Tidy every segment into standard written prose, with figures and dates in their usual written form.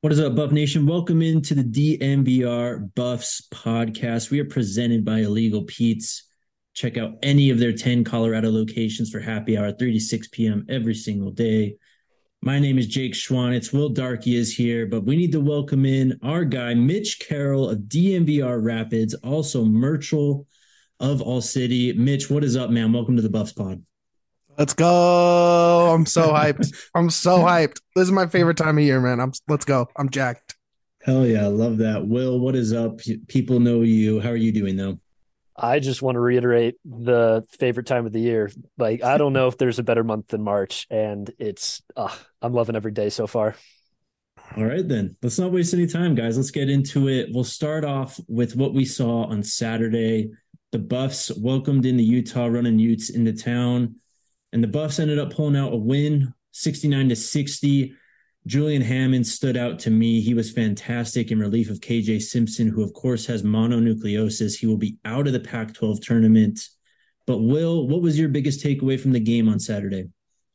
What is up, Buff Nation? Welcome into the DMVR Buffs podcast. We are presented by Illegal Pete's. Check out any of their 10 Colorado locations for happy hour, 3 to 6 p.m. every single day. My name is Jake Schwanitz. Will Darkey is here, but we need to welcome in our guy, Mitch Carroll of DMVR Rapids, also Murchel of All City. Mitch, what is up, man? Welcome to the Buffs pod. Let's go. I'm so hyped. I'm so hyped. This is my favorite time of year, man. Let's go. I'm jacked. Hell yeah, I love that. Will, what is up? People know you. How are you doing, though? I just want to reiterate the favorite time of the year. Like, I don't know if there's a better month than March, and I'm loving every day so far. All right, then. Let's not waste any time, guys. Let's get into it. We'll start off with what we saw on Saturday. The Buffs welcomed in the Utah Running Utes into town, and the Buffs ended up pulling out a win, 69-60. Julian Hammond stood out to me. He was fantastic in relief of KJ Simpson, who, of course, has mononucleosis. He will be out of the Pac 12 tournament. But, Will, what was your biggest takeaway from the game on Saturday?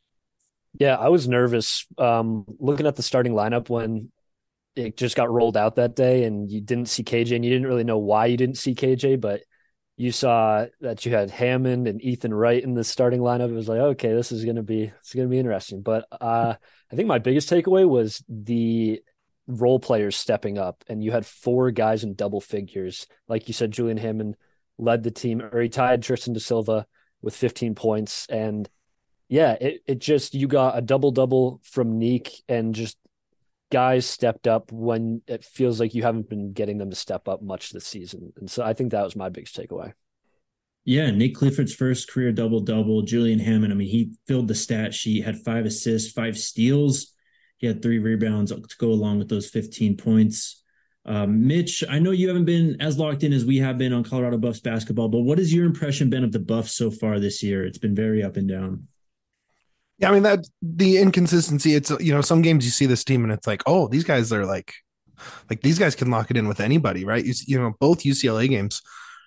Yeah, I was nervous looking at the starting lineup when it just got rolled out that day and you didn't see KJ and you didn't really know why you didn't see KJ, but you saw that you had Hammond and Ethan Wright in the starting lineup. It was like, okay, this is gonna be interesting. But I think my biggest takeaway was the role players stepping up, and you had four guys in double figures. Like you said, Julian Hammond led the team, or he tied Tristan Da Silva with 15 points. And yeah, it just you got a double double from Neek, and just guys stepped up when it feels like you haven't been getting them to step up much this season. And so I think that was my biggest takeaway. Yeah, Nick Clifford's first career double-double. Julian Hammond, I mean, he filled the stat sheet, had 5 assists, 5 steals. He had 3 rebounds to go along with those 15 points. Mitch, I know you haven't been as locked in as we have been on Colorado Buffs basketball, but what has your impression been of the Buffs so far this year? It's been very up and down. Yeah, I mean that the inconsistency. It's some games you see this team and it's like, oh, these guys are like these guys can lock it in with anybody, right? Both UCLA games,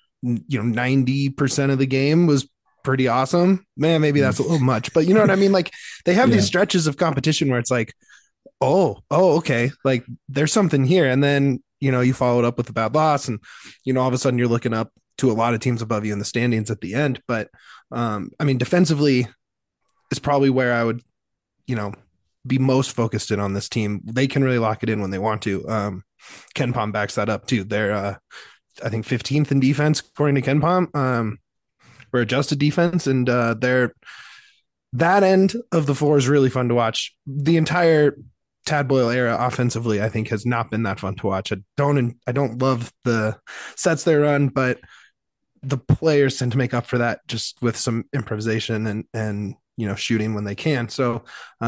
90% of the game was pretty awesome. Man, maybe that's a little much, but you know what I mean? Like they have Yeah. these stretches of competition where it's like, oh, okay, like there's something here, and then you follow it up with a bad loss, and all of a sudden you're looking up to a lot of teams above you in the standings at the end. But I mean, defensively is probably where I would, you know, be most focused in on this team. They can really lock it in when they want to. KenPom backs that up too. They're I think 15th in defense according to KenPom. For adjusted defense, and they're that end of the floor is really fun to watch. The entire Tad Boyle era offensively, I think, has not been that fun to watch. I don't love the sets they run, but the players tend to make up for that just with some improvisation and shooting when they can. So,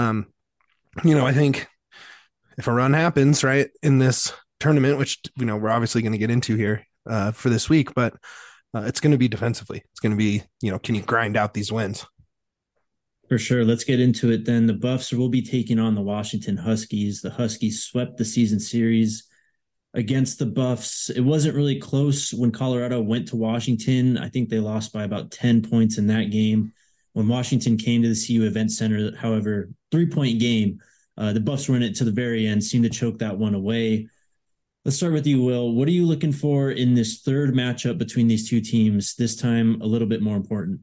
I think if a run happens right in this tournament, which we're obviously going to get into here for this week, but it's going to be defensively. It's going to be can you grind out these wins? For sure. Let's get into it then. The Buffs will be taking on the Washington Huskies. The Huskies swept the season series against the Buffs. It wasn't really close when Colorado went to Washington. I think they lost by about 10 points in that game. When Washington came to the CU Event Center, however, 3-point game, the Buffs were in it to the very end, seemed to choke that one away. Let's start with you, Will. What are you looking for in this third matchup between these two teams, this time a little bit more important?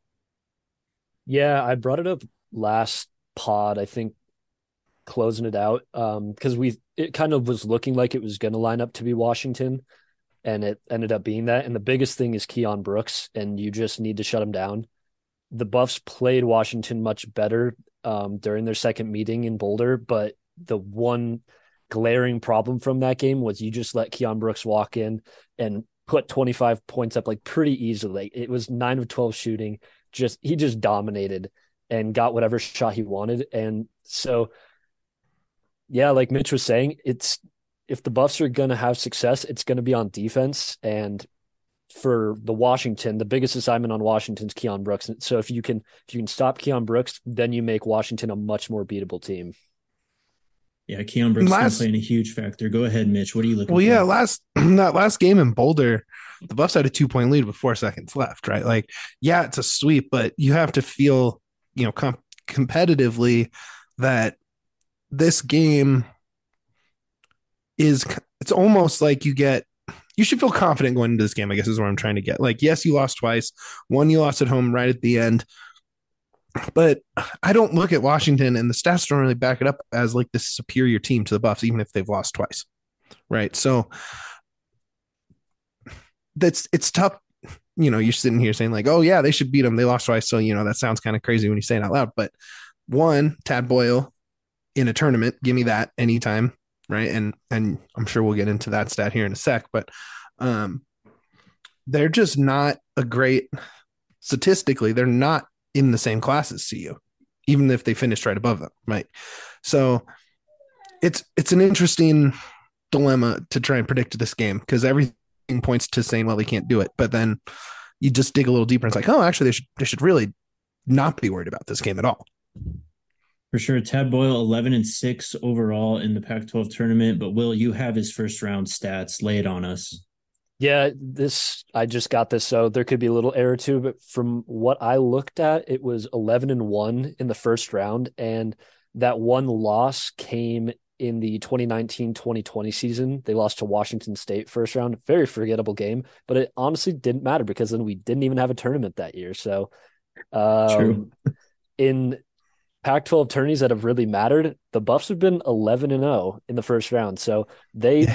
Yeah, I brought it up last pod, I think, closing it out. Because it kind of was looking like it was gonna line up to be Washington, and it ended up being that. And the biggest thing is Keon Brooks, and you just need to shut him down. The Buffs played Washington much better during their second meeting in Boulder, but the one glaring problem from that game was you just let Keon Brooks walk in and put 25 points up like pretty easily. It was 9 of 12 shooting. He just dominated and got whatever shot he wanted. And so, yeah, like Mitch was saying, it's if the Buffs are going to have success, it's going to be on defense. And for the Washington, the biggest assignment on Washington's Keon Brooks. So if you can stop Keon Brooks, then you make Washington a much more beatable team. Yeah, Keon Brooks is going to Last play in a huge factor. Go ahead, Mitch. What are you looking Well, yeah, for? last that last game in Boulder, the Buffs had a 2-point lead with 4 seconds left, right? Like, yeah, it's a sweep, but you have to feel, competitively that this game is it's almost like you should feel confident going into this game, I guess is what I'm trying to get. Like, yes, you lost twice. One you lost at home right at the end. But I don't look at Washington and the stats don't really back it up as like this superior team to the Buffs, even if they've lost twice. Right. So it's tough. You're sitting here saying like, oh yeah, they should beat them. They lost twice. So, that sounds kind of crazy when you say it out loud. But one, Tad Boyle in a tournament, give me that anytime. Right. And I'm sure we'll get into that stat here in a sec, but they're just not a great statistically, they're not in the same class as CU, even if they finished right above them. Right. So it's an interesting dilemma to try and predict this game because everything points to saying, well, they can't do it. But then you just dig a little deeper and it's like, oh, actually they should really not be worried about this game at all. For sure. Tad Boyle, 11-6 overall in the Pac-12 tournament. But Will, you have his first round stats. Lay it on us. Yeah, I just got this, so there could be a little error too, but from what I looked at, it was 11-1 in the first round, and that one loss came in the 2019-2020 season. They lost to Washington State first round. Very forgettable game, but it honestly didn't matter because then we didn't even have a tournament that year. So True. In Pac-12 tourneys that have really mattered, the Buffs have been 11-0 in the first round. So they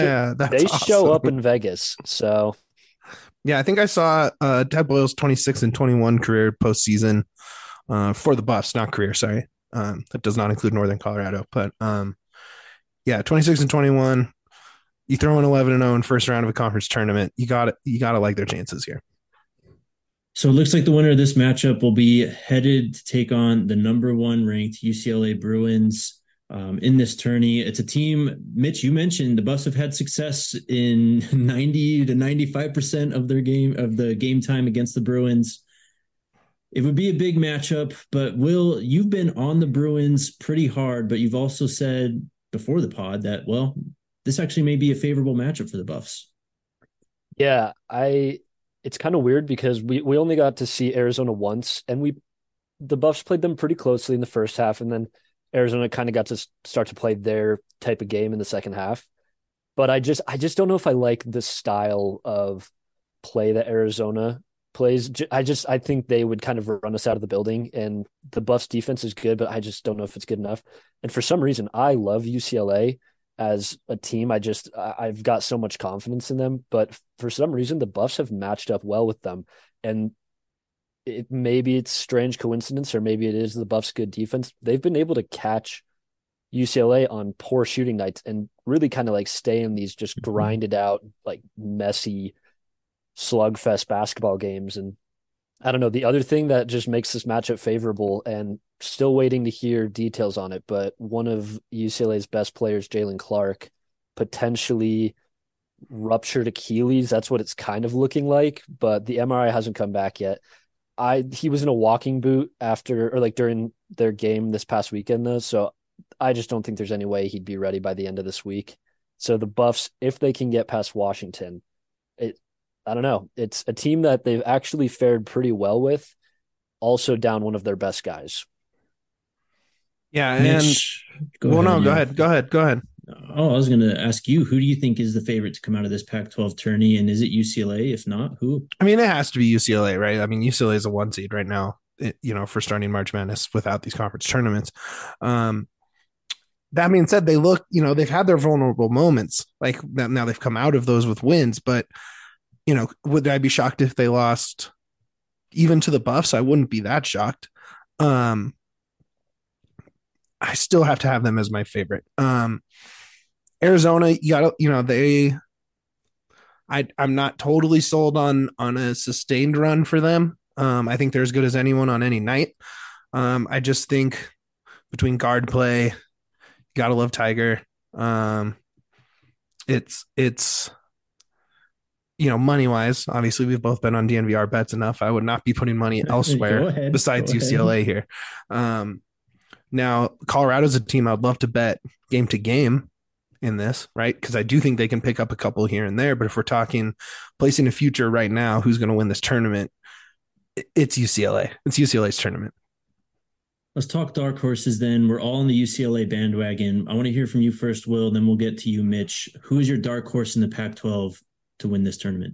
show up in Vegas. So yeah, I think I saw Ted Boyle's 26-21 career postseason for the Buffs, not career. Sorry, that does not include Northern Colorado, but yeah, 26-21. You throw in 11-0 in first round of a conference tournament. You got to like their chances here. So it looks like the winner of this matchup will be headed to take on the number 1 ranked UCLA Bruins in this tourney. It's a team, Mitch, you mentioned the Buffs have had success in 90 to 95% of the game time against the Bruins. It would be a big matchup, but Will, you've been on the Bruins pretty hard, but you've also said before the pod that, well, this actually may be a favorable matchup for the Buffs. Yeah, it's kind of weird because we only got to see Arizona once, and the Buffs played them pretty closely in the first half, and then Arizona kind of got to start to play their type of game in the second half. But I just don't know if I like the style of play that Arizona plays. I think they would kind of run us out of the building, and the Buffs defense is good, but I just don't know if it's good enough. And for some reason, I love UCLA as a team. I've got so much confidence in them, but for some reason the Buffs have matched up well with them. And maybe it's strange coincidence, or maybe it is the Buffs' good defense. They've been able to catch UCLA on poor shooting nights and really kind of like stay in these just grinded out, like messy slugfest basketball games. And I don't know, the other thing that just makes this matchup favorable, and still waiting to hear details on it, but one of UCLA's best players, Jalen Clark, potentially ruptured Achilles. That's what it's kind of looking like, but the MRI hasn't come back yet. He was in a walking boot during their game this past weekend though, so I just don't think there's any way he'd be ready by the end of this week. So the Buffs, if they can get past Washington, I don't know. It's a team that they've actually fared pretty well with, also down one of their best guys. Yeah, Mitch, go ahead. Oh, I was going to ask you, who do you think is the favorite to come out of this Pac-12 tourney, and is it UCLA? If not, who? I mean, it has to be UCLA, right? I mean, UCLA is a 1 seed right now, for starting March Madness without these conference tournaments. That being said, they look, they've had their vulnerable moments. Like now they've come out of those with wins, but would I be shocked if they lost even to the Buffs? I wouldn't be that shocked. I still have to have them as my favorite. Arizona, I'm not totally sold on a sustained run for them. I think they're as good as anyone on any night. I just think between guard play, gotta love Tiger. It's money wise, obviously we've both been on DNVR bets enough. I would not be putting money elsewhere besides UCLA here. Now Colorado's a team I'd love to bet game to game in this, right? Because I do think they can pick up a couple here and there. But if we're talking placing a future right now, who's going to win this tournament? It's UCLA. It's UCLA's tournament. Let's talk dark horses then. We're all on the UCLA bandwagon. I want to hear from you first, Will, then we'll get to you, Mitch. Who is your dark horse in the Pac-12 to win this tournament?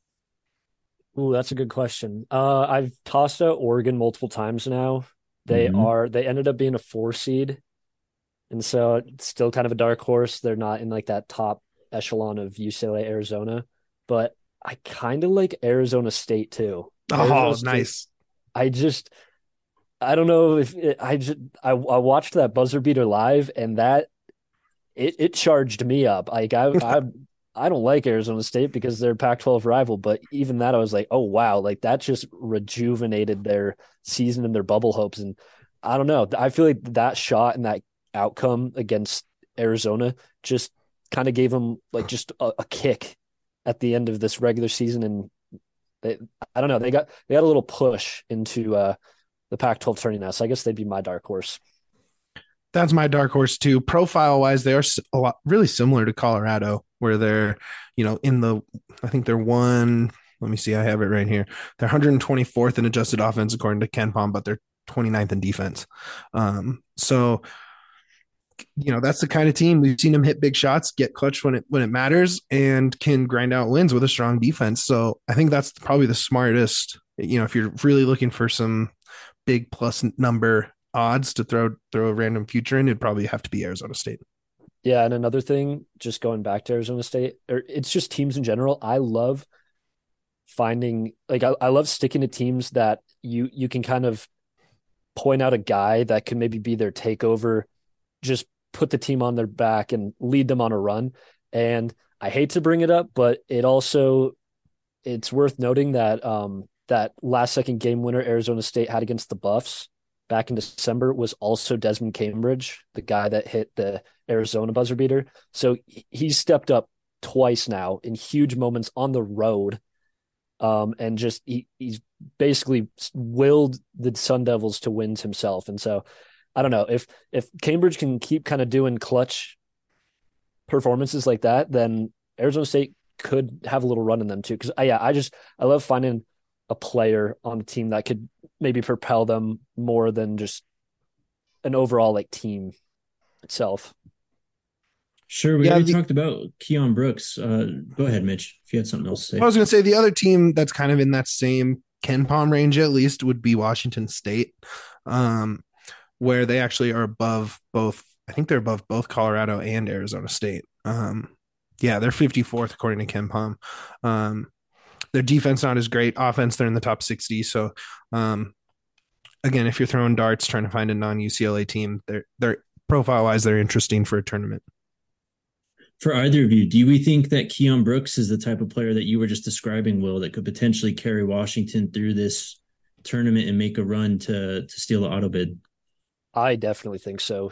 Ooh, that's a good question. I've tossed out Oregon multiple times now. Mm-hmm. They ended up being a 4 seed, and so it's still kind of a dark horse. They're not in like that top echelon of UCLA, Arizona, but I kind of like Arizona State too. Arizona Oh, State. nice. I just I don't know if it, I just I watched that buzzer beater live, and that it charged me up. Like I don't like Arizona State because they're Pac-12 rival, but even that I was like, oh wow, like that just rejuvenated their season and their bubble hopes. And I don't know, I feel like that shot and that outcome against Arizona just kind of gave them like just a kick at the end of this regular season, and they, I don't know, they got a little push into the Pac-12 tourney now. So I guess they'd be my dark horse. That's my dark horse too. Profile wise, they are a lot really similar to Colorado, where they're, in the, I think they're one. Let me see, I have it right here. They're 124th in adjusted offense according to KenPom, but they're 29th in defense. So that's the kind of team we've seen them hit big shots, get clutch when it matters, and can grind out wins with a strong defense. So I think that's probably the smartest. If you're really looking for some big plus number odds to throw a random future in, it'd probably have to be Arizona State. Yeah, and another thing, just going back to Arizona State, or it's just teams in general. I love finding like I love sticking to teams that you can kind of point out a guy that could maybe be their takeover, just put the team on their back and lead them on a run. And I hate to bring it up, but it's worth noting that that last second game winner Arizona State had against the Buffs back in December was also Desmond Cambridge, the guy that hit the Arizona buzzer beater. So he's stepped up twice now in huge moments on the road. And just he's basically willed the Sun Devils to wins himself. And so I don't know if Cambridge can keep kind of doing clutch performances like that, then Arizona State could have a little run in them too. Because I love finding a player on a team that could maybe propel them more than just an overall like team itself. Sure. We Yeah, already talked about Keon Brooks. Go ahead, Mitch, if you had something else to I say. was going to say the other team that's kind of in that same KenPom range at least would be Washington State, where they actually are above both. I think they're above both Colorado and Arizona State. Yeah, they're 54th according to KenPom. Their defense not as great. Offense, they're in the top 60. So, again, if you're throwing darts trying to find a non-UCLA team, they're profile wise they're interesting for a tournament. For either of you, do we think that Keon Brooks is the type of player that you were just describing, Will, that could potentially carry Washington through this tournament and make a run to steal the auto bid? I definitely think so.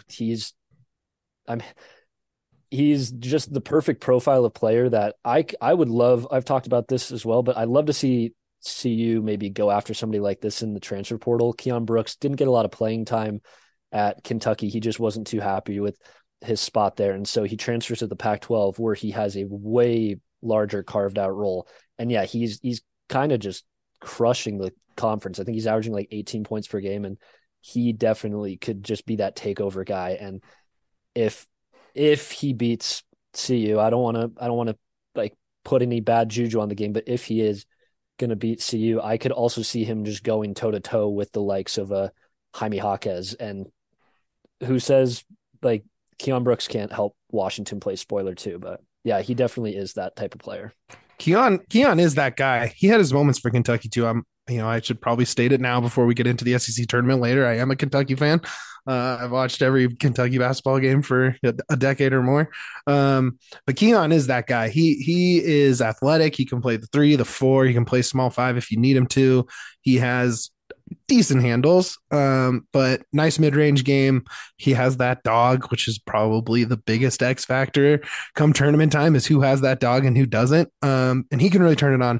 I'm he's just the perfect profile of player that I would love. I've talked about this as well, but I'd love to see you maybe go after somebody like this in the transfer portal. Keon Brooks didn't get a lot of playing time at Kentucky. He just wasn't too happy with his spot there. And so he transfers to the Pac-12 where he has a way larger carved out role. And yeah, he's kind of just crushing the conference. I think he's averaging like 18 points per game, and he definitely could just be that takeover guy. And if he beats CU, I don't want to like put any bad juju on the game, but if he is going to beat CU, I could also see him just going toe to toe with the likes of Jaime Jaquez. And who says like Keon Brooks can't help Washington play spoiler too, but yeah, he definitely is that type of player. Keon is that guy. He had his moments for Kentucky too. I should probably state it now before we get into the SEC tournament later. I am a Kentucky fan. I've watched every Kentucky basketball game for a decade or more. But Keon is that guy. He is athletic. He can play the 3, the 4. He can play small 5 if you need him to. He has decent handles, but nice mid-range game. He has that dog, which is probably the biggest X factor come tournament time, is who has that dog and who doesn't. And he can really turn it on.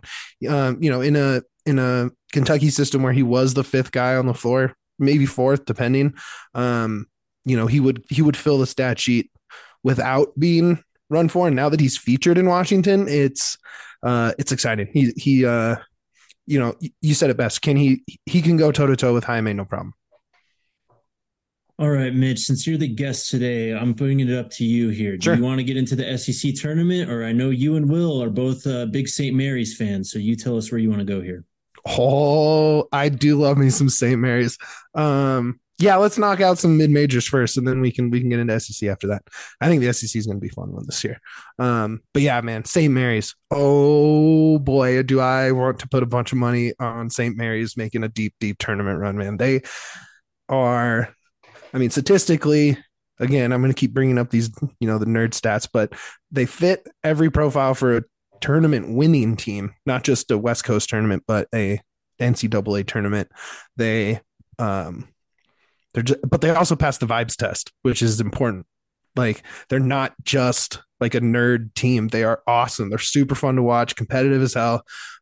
In a Kentucky system where he was the 5th guy on the floor, maybe 4th, depending. He would fill the stat sheet without being run for. And now that he's featured in Washington, it's exciting. You said it best. He can go toe to toe with Jaime, no problem. All right, Mitch, since you're the guest today, I'm bringing it up to you here. Do Sure. you want to get into the SEC tournament? Or I know you and Will are both big St. Mary's fans. So you tell us where you want to go here. Oh, I do love me some St. Mary's. Yeah, let's knock out some mid majors first, and then we can get into SEC after that. I think the SEC is going to be a fun one this year. But yeah, man, St. Mary's. Oh boy, do I want to put a bunch of money on St. Mary's making a deep, deep tournament run, man. They are, I mean, statistically, again, I'm going to keep bringing up these, the nerd stats, but they fit every profile for a tournament winning team, not just a West Coast tournament, but a NCAA tournament. They, but they also pass the vibes test, which is important. Like, they're not just like a nerd team. They are awesome. They're super fun to watch, competitive as hell.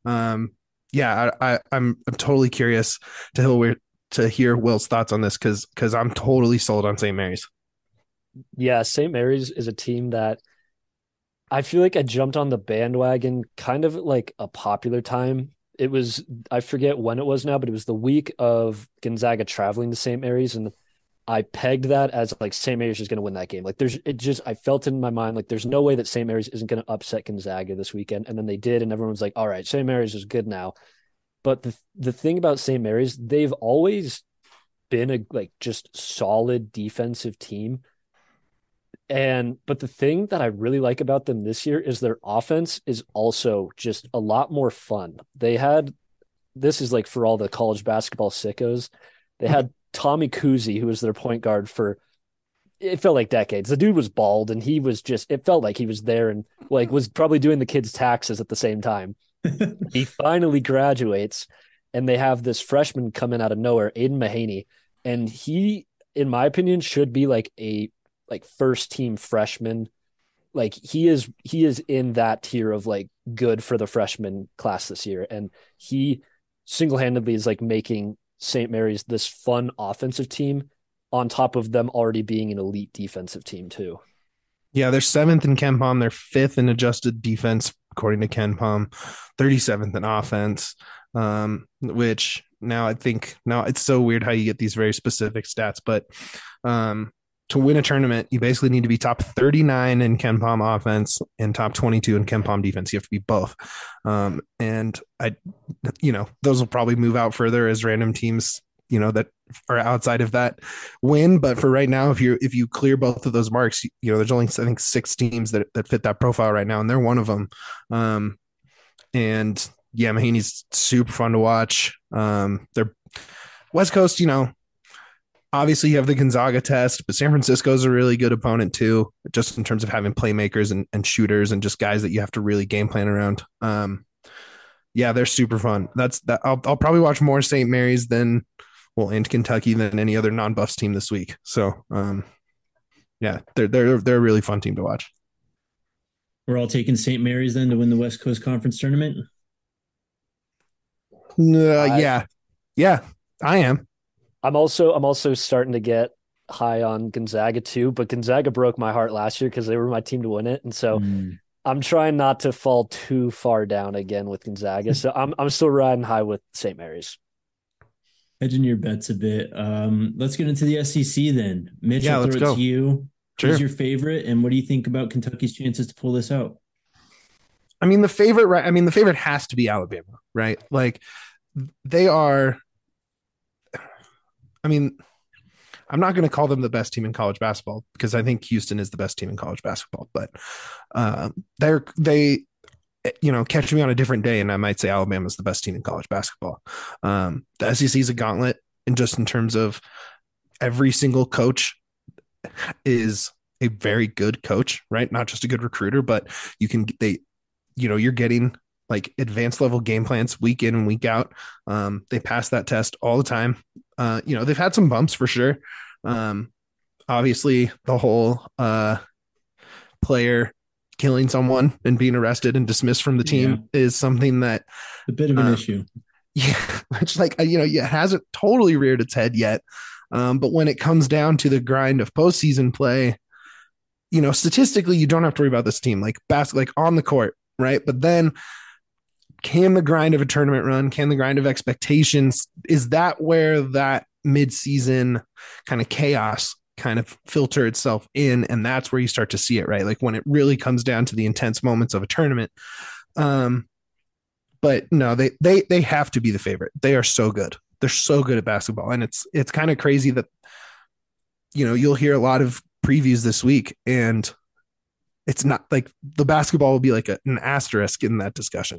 Yeah, I'm totally curious to hear Will's thoughts on this because I'm totally sold on St. Mary's. Yeah, St. Mary's is a team that I feel like I jumped on the bandwagon kind of like a popular time. It was, I forget when it was now, but it was the week of Gonzaga traveling to St. Mary's, and I pegged that as like St. Mary's is going to win that game. Like I felt it in my mind, like there's no way that St. Mary's isn't going to upset Gonzaga this weekend. And then they did, and everyone's like, all right, St. Mary's is good now. But the thing about St. Mary's, they've always been a like just solid defensive team. But the thing that I really like about them this year is their offense is also just a lot more fun. This is like for all the college basketball sickos. They had Tommy Kuzi, who was their point guard for, it felt like decades. The dude was bald, and it felt like he was there and like was probably doing the kids' taxes at the same time. He finally graduates, and they have this freshman coming out of nowhere, Aiden Mahaney, and he, in my opinion, should be like a first team freshman. Like he is in that tier of like good for the freshman class this year, and he single-handedly is like making St. Mary's this fun offensive team on top of them already being an elite defensive team too. Yeah, they're seventh in KenPom. They're fifth in adjusted defense, according to KenPom, 37th in offense, which now it's so weird how you get these very specific stats, but to win a tournament, you basically need to be top 39 in KenPom offense and top 22 in KenPom defense. You have to be both. And those will probably move out further as random teams, that are outside of that win. But for right now, if you clear both of those marks, there's only, I think, 6 teams that fit that profile right now, and they're one of them. And yeah, Mahaney's super fun to watch. They're West Coast, obviously you have the Gonzaga test, but San Francisco's a really good opponent too, just in terms of having playmakers and shooters and just guys that you have to really game plan around. Yeah, they're super fun. I'll probably watch more St. Mary's and Kentucky than any other non-Buffs team this week. So yeah, they're a really fun team to watch. We're all taking St. Mary's then to win the West Coast Conference tournament. Yeah, I am. I'm also starting to get high on Gonzaga too, but Gonzaga broke my heart last year because they were my team to win it, and so I'm trying not to fall too far down again with Gonzaga. So I'm still riding high with St. Mary's. Hedging your bets a bit. Let's get into the SEC then. Mitch, I'll throw it to you. Sure. Who's your favorite, and what do you think about Kentucky's chances to pull this out? I mean, the favorite has to be Alabama, right? Like they are. I mean, I'm not going to call them the best team in college basketball because I think Houston is the best team in college basketball, but they catch me on a different day and I might say Alabama's the best team in college basketball. The SEC is a gauntlet, and just in terms of every single coach is a very good coach, right? Not just a good recruiter, but you're getting like advanced level game plans week in and week out. They pass that test all the time. They've had some bumps for sure. Obviously the whole player killing someone and being arrested and dismissed from the team is something that a bit of an issue. Yeah. Which it hasn't totally reared its head yet. But when it comes down to the grind of postseason play, statistically, you don't have to worry about this team like on the court, right? But then can the grind of a tournament run, can the grind of expectations, is that where that mid-season kind of chaos kind of filter itself in, and that's where you start to see it, right? Like when it really comes down to the intense moments of a tournament. But no, they have to be the favorite. They are so good. They're so good at basketball, and it's kind of crazy that you'll hear a lot of previews this week, and it's not like the basketball will be like an asterisk in that discussion.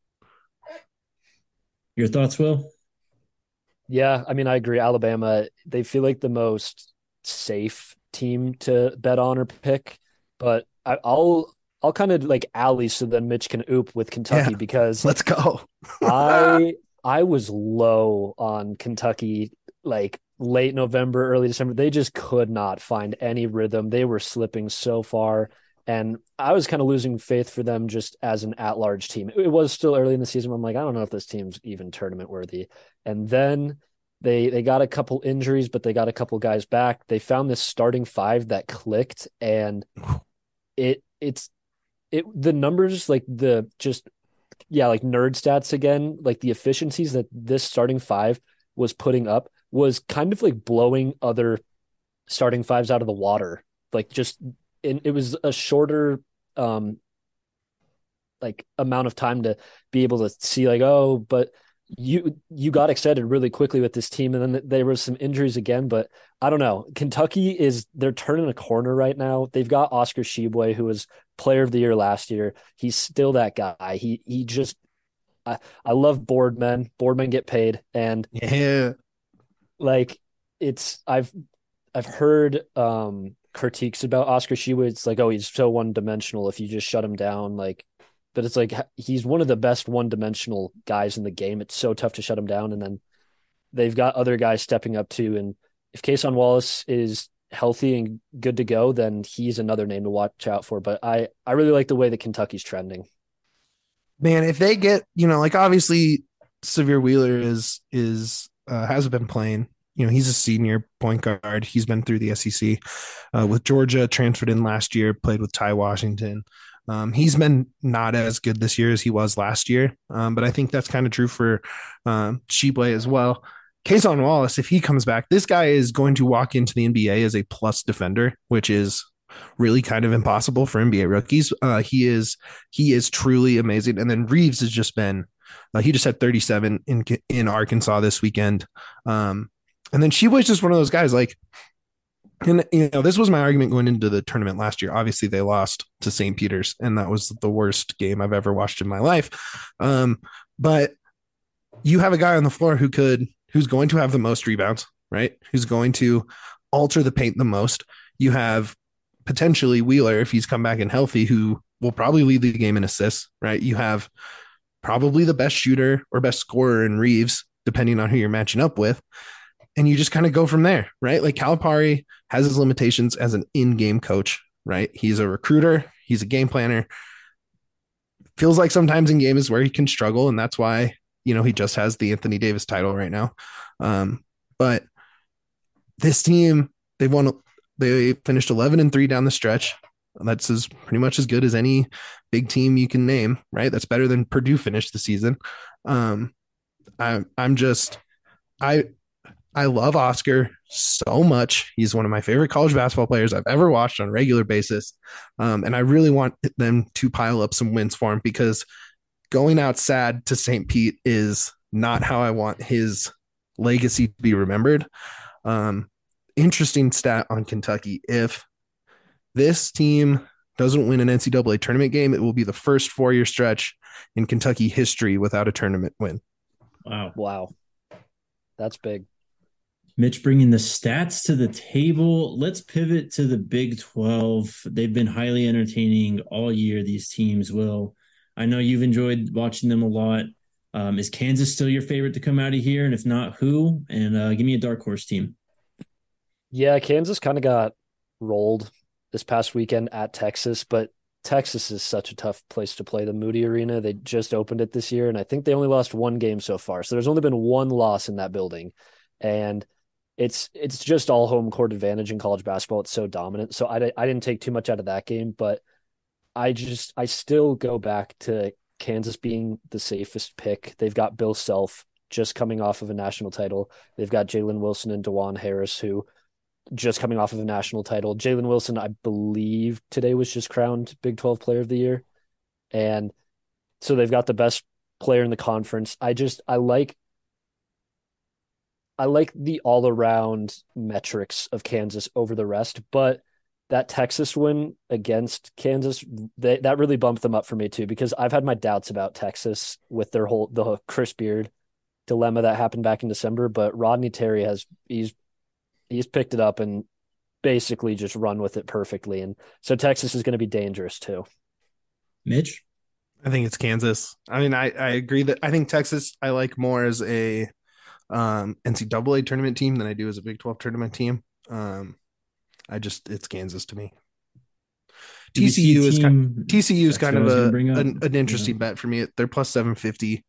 Your thoughts, Will? Yeah, I mean, I agree. Alabama, they feel like the most safe team to bet on or pick, but I'll kind of like alley so then Mitch can oop with Kentucky because let's go. I was low on Kentucky like late November, early December. They just could not find any rhythm. They were slipping so far. And I was kind of losing faith for them just as an at-large team. It was still early in the season. I'm like, I don't know if this team's even tournament worthy. And then they got a couple injuries, but they got a couple guys back. They found this starting five that clicked, and the numbers, like the just like nerd stats again, like the efficiencies that this starting five was putting up was kind of like blowing other starting fives out of the water. Like just it was a shorter like amount of time to be able to see like, oh, but you got excited really quickly with this team, and then there was some injuries again. But I don't know. Kentucky they're turning a corner right now. They've got Oscar Tshiebwe, who was player of the year last year. He's still that guy. He just I love Boardmen. Boardmen get paid, and yeah, like I've heard critiques about Oscar Tshiebwe. It's like, oh, he's so one dimensional if you just shut him down, like. But it's like he's one of the best one-dimensional guys in the game. It's so tough to shut him down. And then they've got other guys stepping up too. And if Kason Wallace is healthy and good to go, then he's another name to watch out for. But I really like the way that Kentucky's trending. Man, if they get, like obviously Sahvir Wheeler has been playing. He's a senior point guard. He's been through the SEC with Georgia, transferred in last year, played with Ty Washington. He's been not as good this year as he was last year, but I think that's kind of true for Tshiebwe as well. Kason Wallace, if he comes back, this guy is going to walk into the NBA as a plus defender, which is really kind of impossible for NBA rookies. He is truly amazing. And then Reeves has just been he just had 37 in Arkansas this weekend. And then Tshiebwe's just one of those guys like. And this was my argument going into the tournament last year. Obviously, they lost to St. Peter's, and that was the worst game I've ever watched in my life. But you have a guy on the floor who's going to have the most rebounds, right? Who's going to alter the paint the most. You have potentially Wheeler, if he's come back and healthy, who will probably lead the game in assists, right? You have probably the best shooter or best scorer in Reeves, depending on who you're matching up with. And you just kind of go from there, right? Like Calipari has his limitations as an in-game coach, right? He's a recruiter. He's a game planner. Feels like sometimes in game is where he can struggle. And that's why, he just has the Anthony Davis title right now. But this team, they finished 11-3 down the stretch. That's pretty much as good as any big team you can name, right? That's better than Purdue finished the season. I love Oscar so much. He's one of my favorite college basketball players I've ever watched on a regular basis. And I really want them to pile up some wins for him, because going out sad to St. Pete is not how I want his legacy to be remembered. Interesting stat on Kentucky. If this team doesn't win an NCAA tournament game, it will be the first 4-year stretch in Kentucky history without a tournament win. Wow. That's big. Mitch bringing the stats to the table. Let's pivot to the Big 12. They've been highly entertaining all year, these teams. Will, I know you've enjoyed watching them a lot. Is Kansas still your favorite to come out of here? And if not, who? And give me a dark horse team. Yeah, Kansas kind of got rolled this past weekend at Texas, but Texas is such a tough place to play, the Moody Arena. They just opened it this year, and I think they only lost one game so far. So there's only been one loss in that building. And it's just all home court advantage in college basketball. It's so dominant. So I didn't take too much out of that game, but I still go back to Kansas being the safest pick. They've got Bill Self, just coming off of a national title. They've got Jalen Wilson and DeJuan Harris, who just coming off of a national title. Jalen Wilson, I believe today was just crowned Big 12 Player of the Year. And so they've got the best player in the conference. I like the all around metrics of Kansas over the rest, but that Texas win against Kansas, that really bumped them up for me too, because I've had my doubts about Texas with the Chris Beard dilemma that happened back in December, but Rodney Terry he's picked it up and basically just run with it perfectly. And so Texas is going to be dangerous too. Mitch? I think it's Kansas. I mean, I agree that I think Texas I like more as a NCAA tournament team than I do as a Big 12 tournament team. It's Kansas to me. TCU is kind of an interesting bet for me. They're plus 750.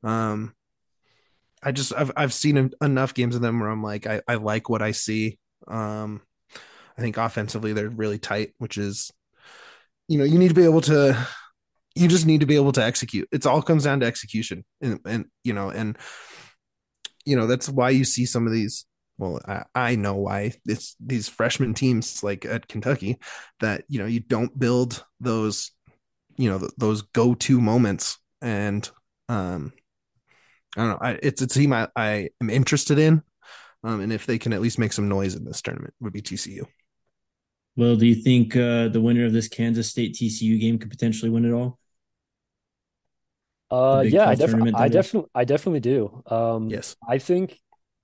I've seen enough games of them where I'm like, I like what I see. I think offensively they're really tight, which is, you just need to be able to execute. It's all comes down to execution. And that's why you see some of these. Well, I know why it's these freshman teams like at Kentucky that, you don't build those, those go-to moments. And I don't know. It's a team I am interested in. And if they can at least make some noise in this tournament, would be TCU. Well, do you think the winner of this Kansas State TCU game could potentially win it all? Yeah, I definitely do. Yes. I think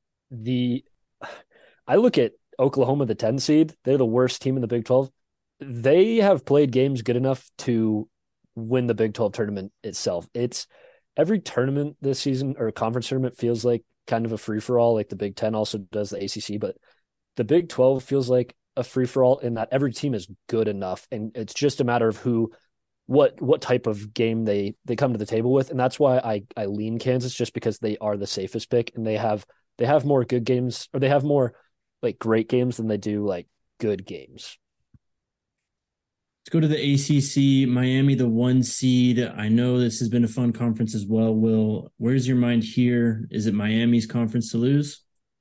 I look at Oklahoma, the 10 seed. They're the worst team in the Big 12. They have played games good enough to win the Big 12 tournament itself. It's every tournament this season or conference tournament feels like kind of a free for all. Like the Big 10 also does the ACC, but the Big 12 feels like a free for all in that every team is good enough, and it's just a matter of what type of game they come to the table with. And that's why I lean Kansas, just because they are the safest pick, and they have more good games, or they have more like great games than they do like good games. Let's go to the ACC. Miami, the 1 seed. I know this has been a fun conference as well. Will, where's your mind here? Is it Miami's conference to lose?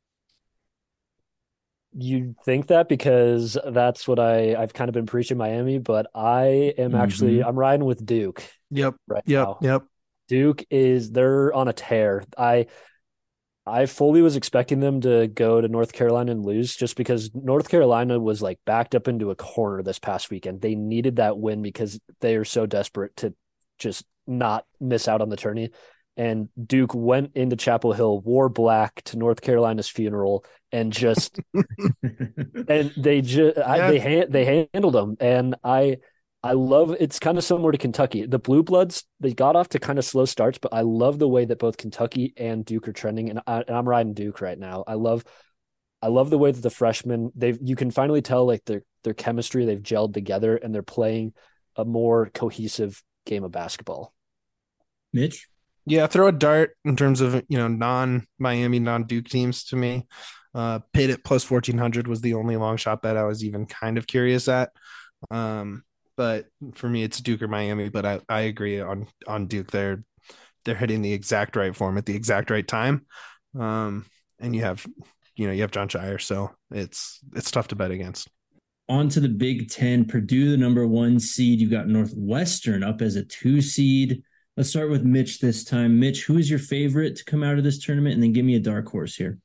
You think that because that's what I've kind of been preaching Miami, but I am actually I'm riding with Duke. Yep. Right now. Yep. Duke they're on a tear. I fully was expecting them to go to North Carolina and lose, just because North Carolina was like backed up into a corner this past weekend. They needed that win because they are so desperate to just not miss out on the tourney. And Duke went into Chapel Hill, wore black to North Carolina's funeral, and just and they handled them. And I love, it's kind of similar to Kentucky. The Blue Bloods, they got off to kind of slow starts, but I love the way that both Kentucky and Duke are trending. And I'm riding Duke right now. I love the way that the freshmen, you can finally tell like their chemistry, they've gelled together, and they're playing a more cohesive game of basketball. Mitch? Yeah, throw a dart in terms of, non-Miami, non-Duke teams to me. Pitt at plus 1,400 was the only long shot bet I was even kind of curious at. But for me, it's Duke or Miami. But I agree on Duke. They're hitting the exact right form at the exact right time. And you have Jon Scheyer, so it's tough to bet against. On to the Big Ten. Purdue, the number 1 seed. You've got Northwestern up as a 2 seed. Let's start with Mitch this time. Mitch, who is your favorite to come out of this tournament? And then give me a dark horse here.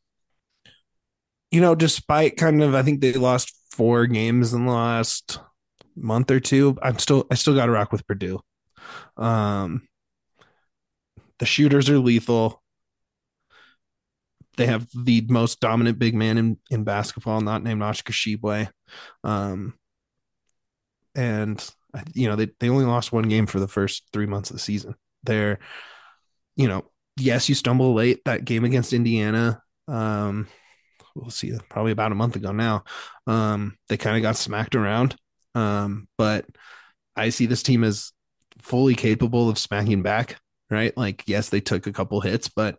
Despite I think they lost 4 games in the last month or two, I still got to rock with Purdue. The shooters are lethal. They have the most dominant big man in basketball, not named Oscar Tshiebwe. And they only lost 1 game for the first 3 months of the season. They're, yes, you stumble late. That game against Indiana, we'll see, probably about a month ago now. They kind of got smacked around. But I see this team as fully capable of smacking back, right? Like, yes, they took a couple hits, but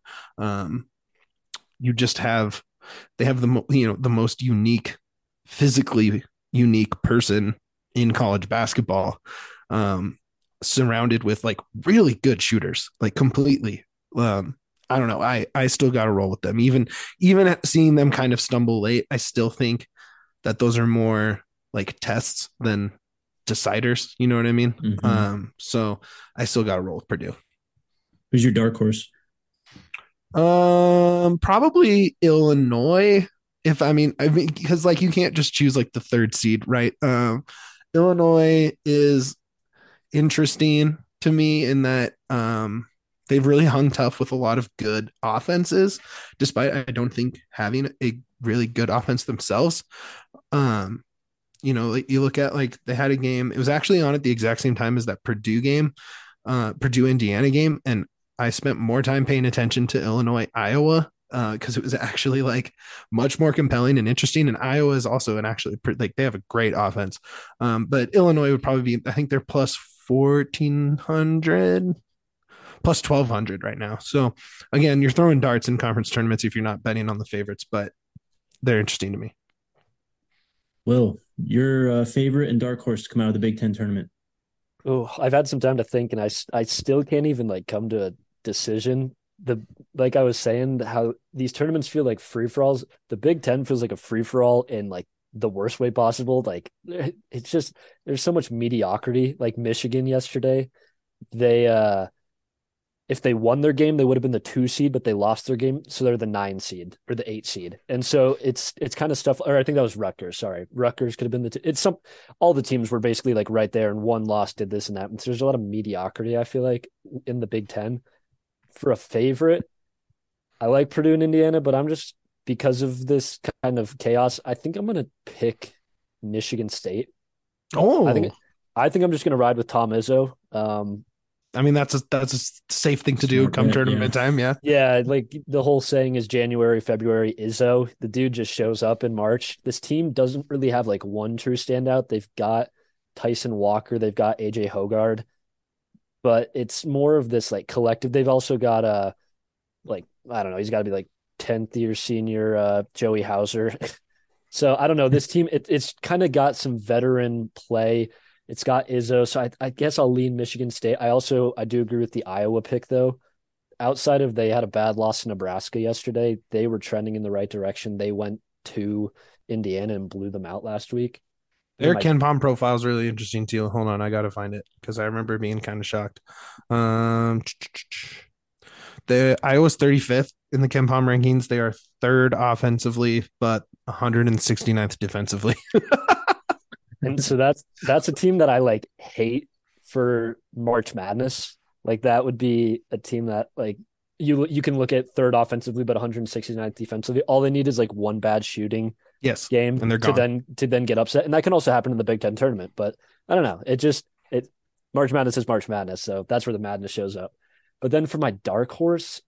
they have the most physically unique person in college basketball, surrounded with like really good shooters, like completely. I don't know. I still got to roll with them. Even seeing them kind of stumble late, I still think that those are more like tests than deciders. You know what I mean? Mm-hmm. So I still got to roll with Purdue. Who's your dark horse? Probably Illinois. If I mean, because like you can't just choose like the third seed, right? Illinois is interesting to me in that they've really hung tough with a lot of good offenses, despite I don't think having a really good offense themselves. Um, like you look at like they had a game, it was actually on at the exact same time as that Purdue game, Purdue Indiana game, and I spent more time paying attention to Illinois Iowa because it was actually like much more compelling and interesting. And Iowa is also like they have a great offense, but Illinois would probably be, I think they're plus 1,400 plus 1,200 right now. So again, you're throwing darts in conference tournaments if you're not betting on the favorites, but they're interesting to me. Will, your favorite and dark horse to come out of the Big Ten tournament? Oh, I've had some time to think, and I still can't even like come to a decision. The Like I was saying, how these tournaments feel like free for alls. The Big Ten feels like a free for all in like the worst way possible. Like it's just there's so much mediocrity. Like Michigan yesterday, they if they won their game, they would have been the 2 seed, but they lost their game, so they're the 9 seed or the 8 seed. And so it's kind of stuff. Or I think that was Rutgers. Sorry, Rutgers could have been it's some. All the teams were basically like right there, and one loss did this and that. And so there's a lot of mediocrity. I feel like in the Big Ten for a favorite, I like Purdue and Indiana, but I'm just because of this kind of chaos. I think I'm gonna pick Michigan State. I think Oh, I think I'm just gonna ride with Tom Izzo. I mean, that's a safe thing to do Smart come bet, yeah. tournament time. Yeah. Yeah, like the whole saying is January, February, Izzo. The dude just shows up in March. This team doesn't really have like one true standout. They've got Tyson Walker, they've got AJ Hogard, but it's more of this like collective. They've also got like I don't know, he's got to be like 10th year senior Joey Hauser. So I don't know. This team, it's kind of got some veteran play. It's got Izzo, so I guess I'll lean Michigan State. I do agree with the Iowa pick though. Outside of they had a bad loss to Nebraska yesterday, they were trending in the right direction. They went to Indiana and blew them out last week. Their Ken Palm profile is really interesting too. Hold on, I gotta find it because I remember being kind of shocked. Um, the Iowa's 35th in the Ken Palm rankings. They are third offensively, but 169th defensively. And so that's a team that I like hate for March Madness. Like that would be a team that like you can look at third offensively but 169th defensively. All they need is like one bad shooting Yes, game and they're to gone. then get upset. And that can also happen in the Big Ten tournament. But I don't know. It March Madness is March Madness, so that's where the madness shows up. But then for my dark horse,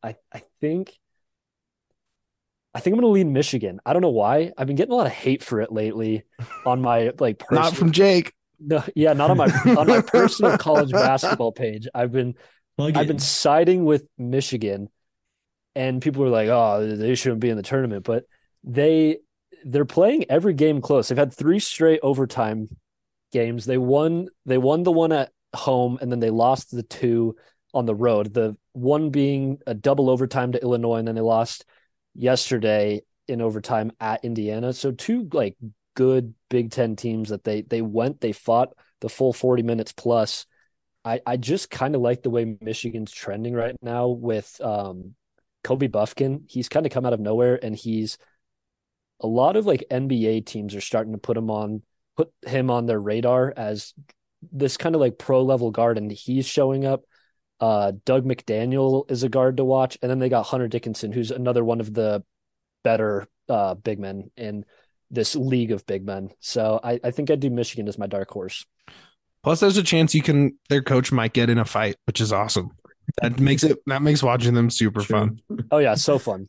I think I'm going to lean Michigan. I don't know why. I've been getting a lot of hate for it lately on my like Not personal. from Jake. No, yeah, not on my personal college basketball page. Plug I've it. been siding with Michigan, and people were like, "Oh, they shouldn't be in the tournament," but they they're playing every game close. They've had 3 straight overtime games. They won the one at home, and then they lost the 2 on the road. The one being a double overtime to Illinois, and then they lost yesterday in overtime at Indiana. So 2 like good Big Ten teams that they fought the full 40 minutes plus. I just kind of like the way Michigan's trending right now with Kobe Buffkin. He's kind of come out of nowhere, and he's a lot of like NBA teams are starting to put him on their radar as this kind of like pro level guard, and he's showing up. Doug McDaniel is a guard to watch, and then they got Hunter Dickinson, who's another one of the better big men in this league of big men. So I think I'd do Michigan as my dark horse. Plus, there's a chance their coach might get in a fight, which is awesome. That makes watching them super True. fun. Oh yeah, so fun.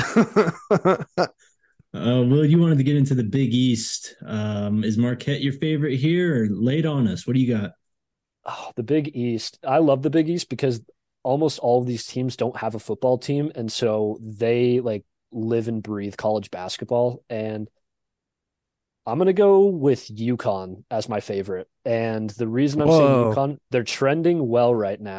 Will, you wanted to get into the Big East. Is Marquette your favorite here, or late on us? What do you got? Oh, the Big East. I love the Big East because almost all of these teams don't have a football team, and so they like live and breathe college basketball. And I'm gonna go with UConn as my favorite. And the reason I'm saying Whoa. UConn, they're trending well right now.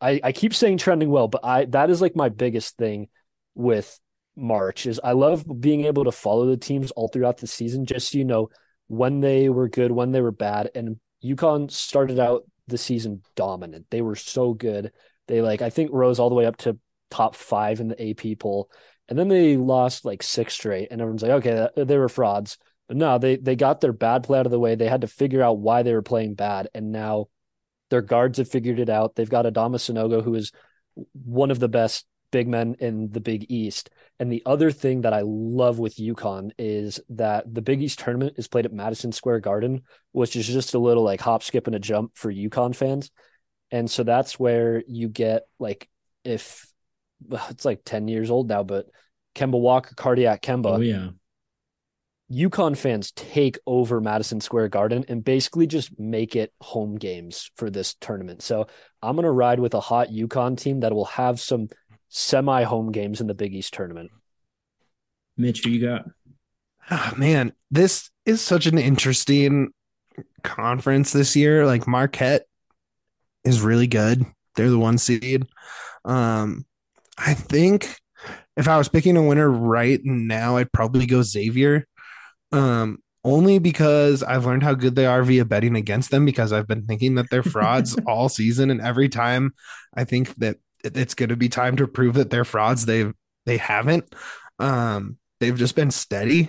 I keep saying trending well, but that is like my biggest thing with March is I love being able to follow the teams all throughout the season, just so you know when they were good, when they were bad. And UConn started out the season dominant. They were so good. They I think rose all the way up to top 5 in the AP poll. And then they lost like 6 straight, and everyone's like, okay, they were frauds. But no, they got their bad play out of the way. They had to figure out why they were playing bad, and now their guards have figured it out. They've got Adama Sanogo, who is one of the best big men in the Big East. And the other thing that I love with UConn is that the Big East tournament is played at Madison Square Garden, which is just a little like hop, skip, and a jump for UConn fans. And so that's where you get if it's like 10 years old now, but Kemba Walker, Cardiac Kemba. Oh, yeah. UConn fans take over Madison Square Garden and basically just make it home games for this tournament. So I'm going to ride with a hot UConn team that will have some semi-home games in the Big East tournament. Mitch, who you got? Oh, man, this is such an interesting conference this year. Like Marquette is really good. They're the 1 seed. I think if I was picking a winner right now, I'd probably go Xavier. Only because I've learned how good they are via betting against them, because I've been thinking that they're frauds all season, and every time I think that it's going to be time to prove that they're frauds, they haven't. They've just been steady,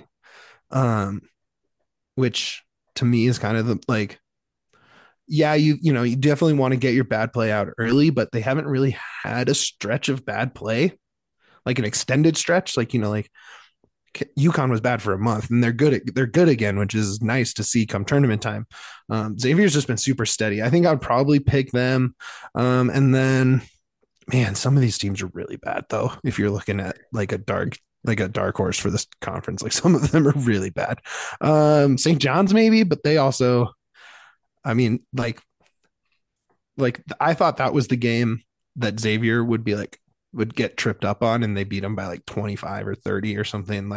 which to me is kind of yeah, you definitely want to get your bad play out early, but they haven't really had a stretch of bad play, like an extended stretch, like UConn was bad for a month, and they're good again, which is nice to see come tournament time. Xavier's just been super steady. I think I'd probably pick them. And then, man, some of these teams are really bad though. If you're looking at like a dark horse for this conference, like some of them are really bad. St. John's maybe, but they also, I mean, like I thought that was the game that Xavier would get tripped up on, and they beat them by like 25 or 30 or something.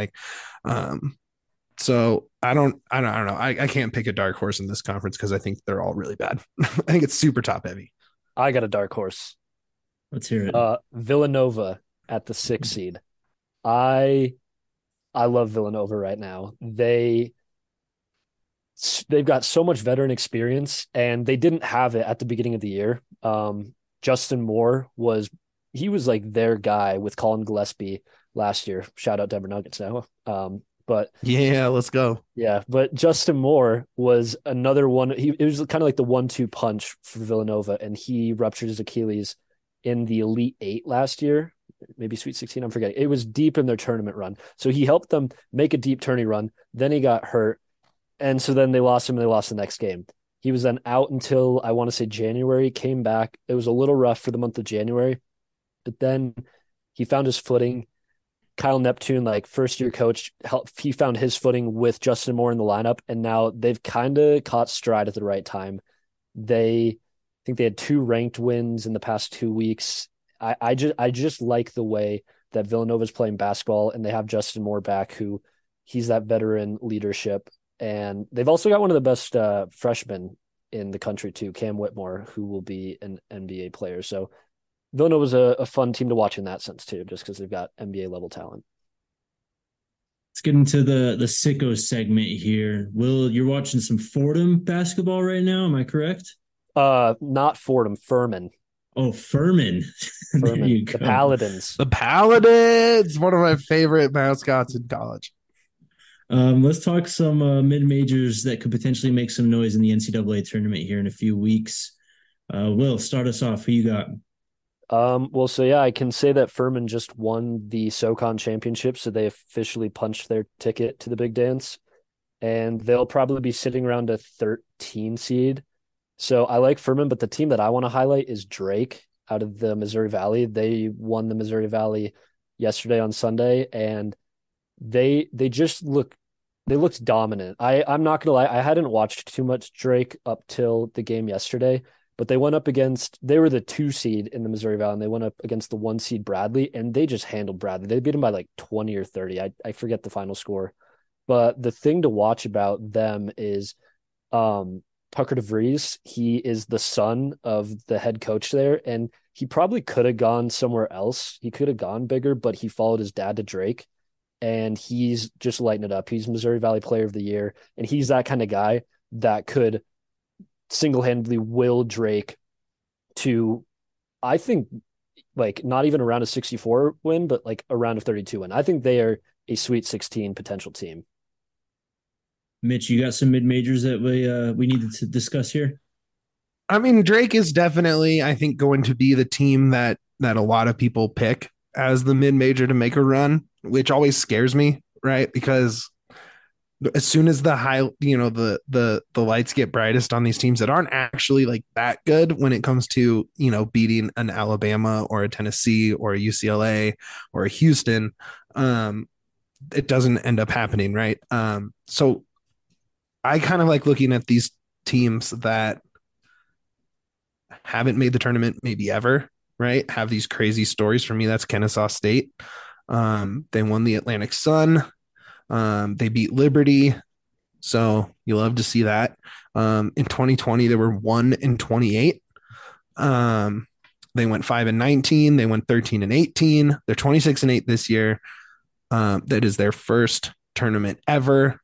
So I don't know. I can't pick a dark horse in this conference because I think they're all really bad. I think it's super top heavy. I got a dark horse. Let's hear it. Villanova at the 6 seed. I love Villanova right now. They've got so much veteran experience, and they didn't have it at the beginning of the year. Justin Moore was like their guy with Colin Gillespie last year. Shout out Denver Nuggets now. But yeah, let's go. Yeah, but Justin Moore was another one. It was kind of like the 1-2 punch for Villanova, and he ruptured his Achilles in the Elite Eight last year, maybe Sweet 16. I'm forgetting. It was deep in their tournament run, so he helped them make a deep tourney run. Then he got hurt, and so then they lost him, and they lost the next game. He was then out until I want to say January. Came back. It was a little rough for the month of January. But then he found his footing. Kyle Neptune, like first-year coach, he found his footing with Justin Moore in the lineup, and now they've kind of caught stride at the right time. I think they had 2 ranked wins in the past 2 weeks. I just like the way that Villanova's playing basketball, and they have Justin Moore back, who he's that veteran leadership, and they've also got one of the best freshmen in the country too, Cam Whitmore, who will be an NBA player. So Villanova's a fun team to watch in that sense too, just because they've got NBA level talent. Let's get into the sicko segment here. Will, you're watching some Fordham basketball right now, am I correct? Not Fordham, Furman. Oh, Furman. There you go. The Paladins. The Paladins, one of my favorite mascots in college. Let's talk some mid-majors that could potentially make some noise in the NCAA tournament here in a few weeks. Will, start us off. Who you got? I can say that Furman just won the SoCon championship, so they officially punched their ticket to the big dance, and they'll probably be sitting around a 13 seed. So I like Furman, but the team that I want to highlight is Drake out of the Missouri Valley. They won the Missouri Valley yesterday on Sunday, and they looked dominant. I'm not gonna lie, I hadn't watched too much Drake up till the game yesterday. But they went up they were the 2 seed in the Missouri Valley, and they went up against the 1 seed Bradley, and they just handled Bradley. They beat him by like 20 or 30. I forget the final score. But the thing to watch about them is Tucker DeVries. He is the son of the head coach there, and he probably could have gone somewhere else. He could have gone bigger, but he followed his dad to Drake, and he's just lighting it up. He's Missouri Valley Player of the Year, and he's that kind of guy that could single-handedly will Drake to, I think, like not even around a 64 win, but like a round of 32 win. I think they are a Sweet 16 potential team. Mitch, you got some mid majors that we needed to discuss here. I mean, Drake is definitely, I think, going to be the team that a lot of people pick as the mid major to make a run, which always scares me, right? Because as soon as the high, the lights get brightest on these teams that aren't actually like that good when it comes to, beating an Alabama or a Tennessee or a UCLA or a Houston, it doesn't end up happening, right? So I kind of like looking at these teams that haven't made the tournament maybe ever, right? Have these crazy stories. For me, that's Kennesaw State. They won the Atlantic Sun. They beat Liberty. So you love to see that. In 2020, they were 1-28. They went 5-19. They went 13-18. They're 26-8 this year. That is their first tournament ever.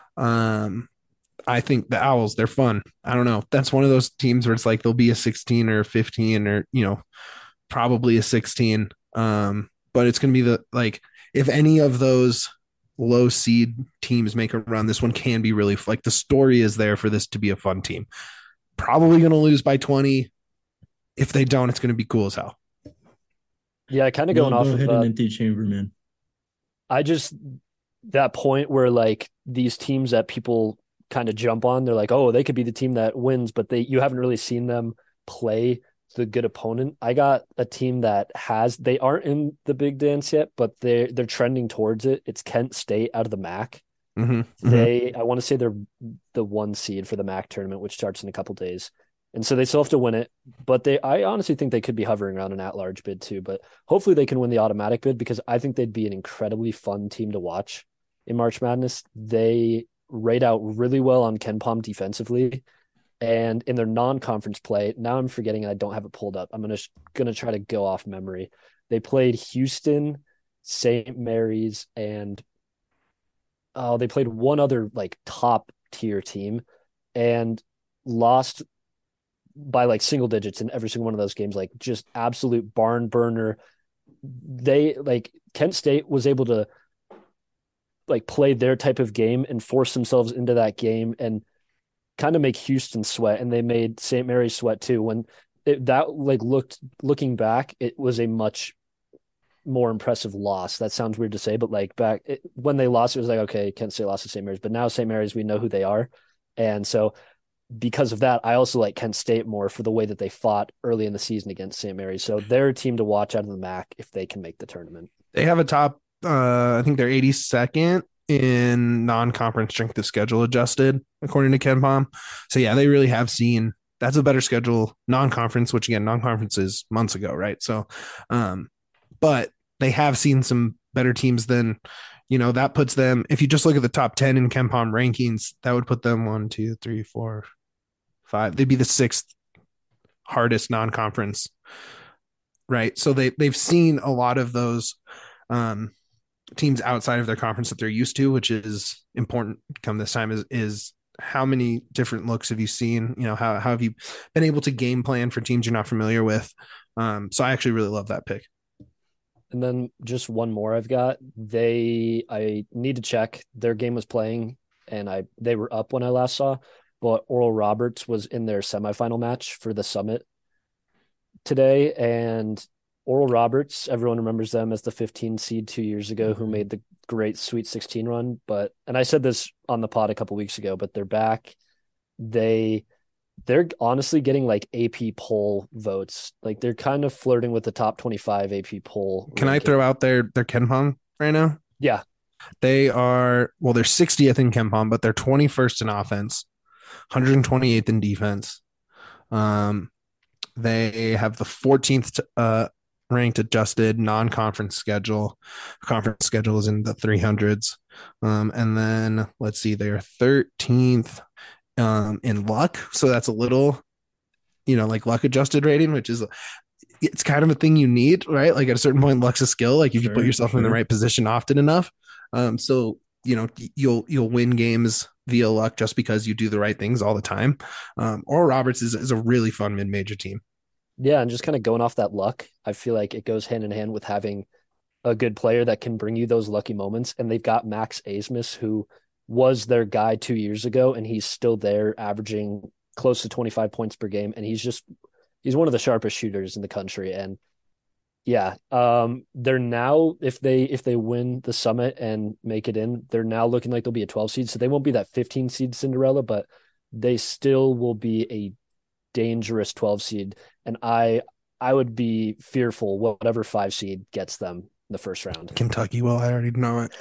I think the Owls, they're fun. I don't know. That's one of those teams where it's like they'll be a 16 or a 15 or, probably a 16. But it's going to be if any of those low seed teams make a run, this one can be really like the story is there for this to be a fun team. Probably going to lose by 20. If they don't, it's going to be cool as hell. Yeah, kind of going off of an empty chamber, man. That point where like these teams that people kind of jump on, they're like, oh, they could be the team that wins, but you haven't really seen them play the good opponent. I got a team that they aren't in the big dance yet, but they're trending towards it. It's Kent State out of the MAC. I want to say they're the 1 seed for the MAC tournament, which starts in a couple days. And so they still have to win it, but I honestly think they could be hovering around an at-large bid too, but hopefully they can win the automatic bid because I think they'd be an incredibly fun team to watch in March Madness. They rate out really well on KenPom defensively. And in their non-conference play, now I'm forgetting I don't have it pulled up. I'm gonna try to go off memory. They played Houston, St. Mary's, and they played one other like top tier team and lost by like single digits in every single one of those games, like just absolute barn burner. Kent State was able to like play their type of game and force themselves into that game and kind of make Houston sweat, and they made St. Mary's sweat too. When looking back, it was a much more impressive loss. That sounds weird to say, but when they lost, it was like, okay, Kent State lost to St. Mary's, but now St. Mary's, we know who they are. And so because of that, I also like Kent State more for the way that they fought early in the season against St. Mary's. So they're a team to watch out of the MAC if they can make the tournament. They have a top, I think they're 82nd in non-conference strength of schedule adjusted, according to KenPom. So yeah, they really have seen that's a better schedule non-conference, which again, non-conference is months ago, right? So, but they have seen some better teams than, that puts them, if you just look at the top 10 in KenPom rankings, that would put them 1, 2, 3, 4, 5. They'd be the 6th hardest non-conference, right? So they've seen a lot of those, teams outside of their conference that they're used to, which is important come this time is how many different looks have you seen? How have you been able to game plan for teams you're not familiar with? So I actually really love that pick. And then just one more I've got. I need to check. Their game was playing and they were up when I last saw, but Oral Roberts was in their semifinal match for the Summit today, and Oral Roberts, everyone remembers them as the 15 seed 2 years ago who made the great Sweet 16 run. And I said this on the pod a couple weeks ago, but they're back. They're honestly getting like AP poll votes. Like they're kind of flirting with the top 25 AP poll. Can ranking. I throw out their KenPom right now? Yeah. They're 60th in KenPom, but they're 21st in offense, 128th in defense. They have the 14th ranked adjusted non-conference schedule. Conference schedule is in the 300s. And then let's see, they're 13th in luck. So that's a little, like luck adjusted rating, which is it's kind of a thing you need, right? Like at a certain point, luck's a skill. Like if you put yourself in the right position often enough, so you'll win games via luck just because you do the right things all the time. Oral Roberts is a really fun mid-major team. Yeah, and just kind of going off that luck, I feel like it goes hand in hand with having a good player that can bring you those lucky moments. And they've got Max Asmus, who was their guy 2 years ago, and he's still there, averaging close to 25 points per game. And he's one of the sharpest shooters in the country. And yeah, they're now, if they win the Summit and make it in, they're now looking like they'll be a 12 seed. So they won't be that 15 seed Cinderella, but they still will be a dangerous 12 seed. And I would be fearful whatever 5 seed gets them in the first round. Kentucky, well, I already know it.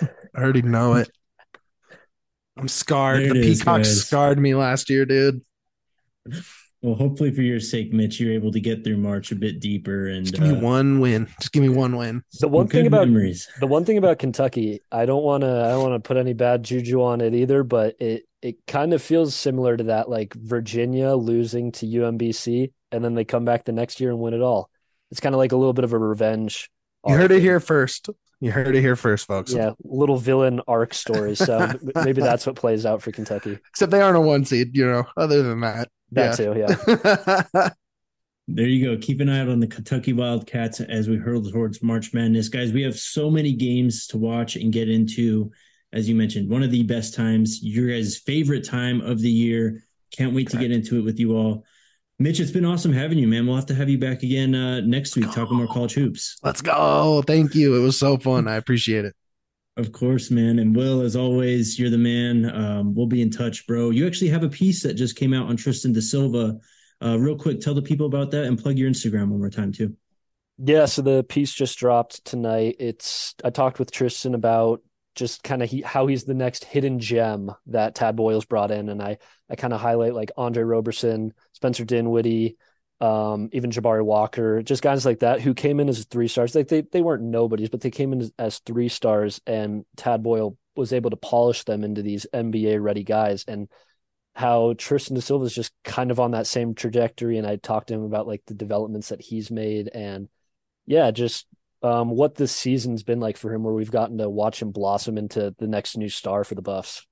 I'm scarred. There the is, Peacocks guys. scarred me last year, dude. Well, hopefully for your sake, Mitch, you're able to get through March a bit deeper. And just give me one win. The one thing about Kentucky, I don't want to put any bad juju on it either, but it kind of feels similar to that, like Virginia losing to UMBC and then they come back the next year and win it all. It's kind of like a little bit of a revenge. You heard it here first. Folks. Yeah, little villain arc story. So maybe that's what plays out for Kentucky. Except they aren't a 1 seed, other than that. Too, yeah. There you go. Keep an eye out on the Kentucky Wildcats as we hurtle towards March Madness. Guys, we have so many games to watch and get into. As you mentioned, one of the best times, your guys' favorite time of the year. Can't wait to get into it with you all. Mitch, it's been awesome having you, man. We'll have to have you back again next week talking more college hoops. Let's go. Thank you. It was so fun. I appreciate it. Of course, man. And Will, as always, you're the man. We'll be in touch, bro. You actually have a piece that just came out on Tristan da Silva. Real quick, tell the people about that and plug your Instagram one more time, too. Yeah, so the piece just dropped tonight. I talked with Tristan about just kind of how he's the next hidden gem that Tad Boyle's brought in. And I kind of highlight like Andre Roberson, Spencer Dinwiddie, even Jabari Walker, just guys like that who came in as 3 stars. Like they weren't nobodies, but they came in as 3 stars, and Tad Boyle was able to polish them into these NBA ready guys. And how Tristan da Silva is just kind of on that same trajectory. And I talked to him about like the developments that he's made, and yeah, just what this season's been like for him, where we've gotten to watch him blossom into the next new star for the Buffs.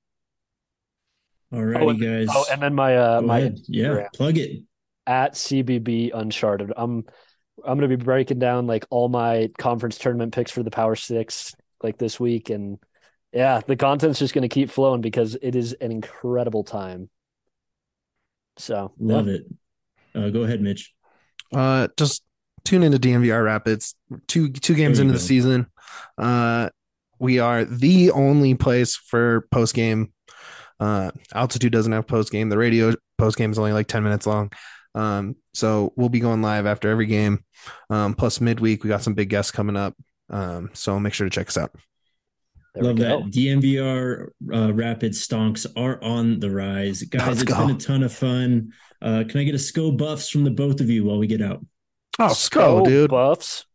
All righty, guys. Oh, and then my yeah, plug it at CBB Uncharted. I'm going to be breaking down like all my conference tournament picks for the Power Six like this week, and yeah, the content's just going to keep flowing because it is an incredible time. So love it. Go ahead, Mitch. Just tune into DNVR Rapids. Two games into the season. We are the only place for post game. Altitude doesn't have post game. The radio post game is only like 10 minutes long. So we'll be going live after every game. Plus midweek, we got some big guests coming up. So make sure to check us out. Love that. DNVR Rapids stonks are on the rise. Guys, it's been a ton of fun. Can I get a SCO Buffs from the both of you while we get out? Oh, SCO, dude. Buffs.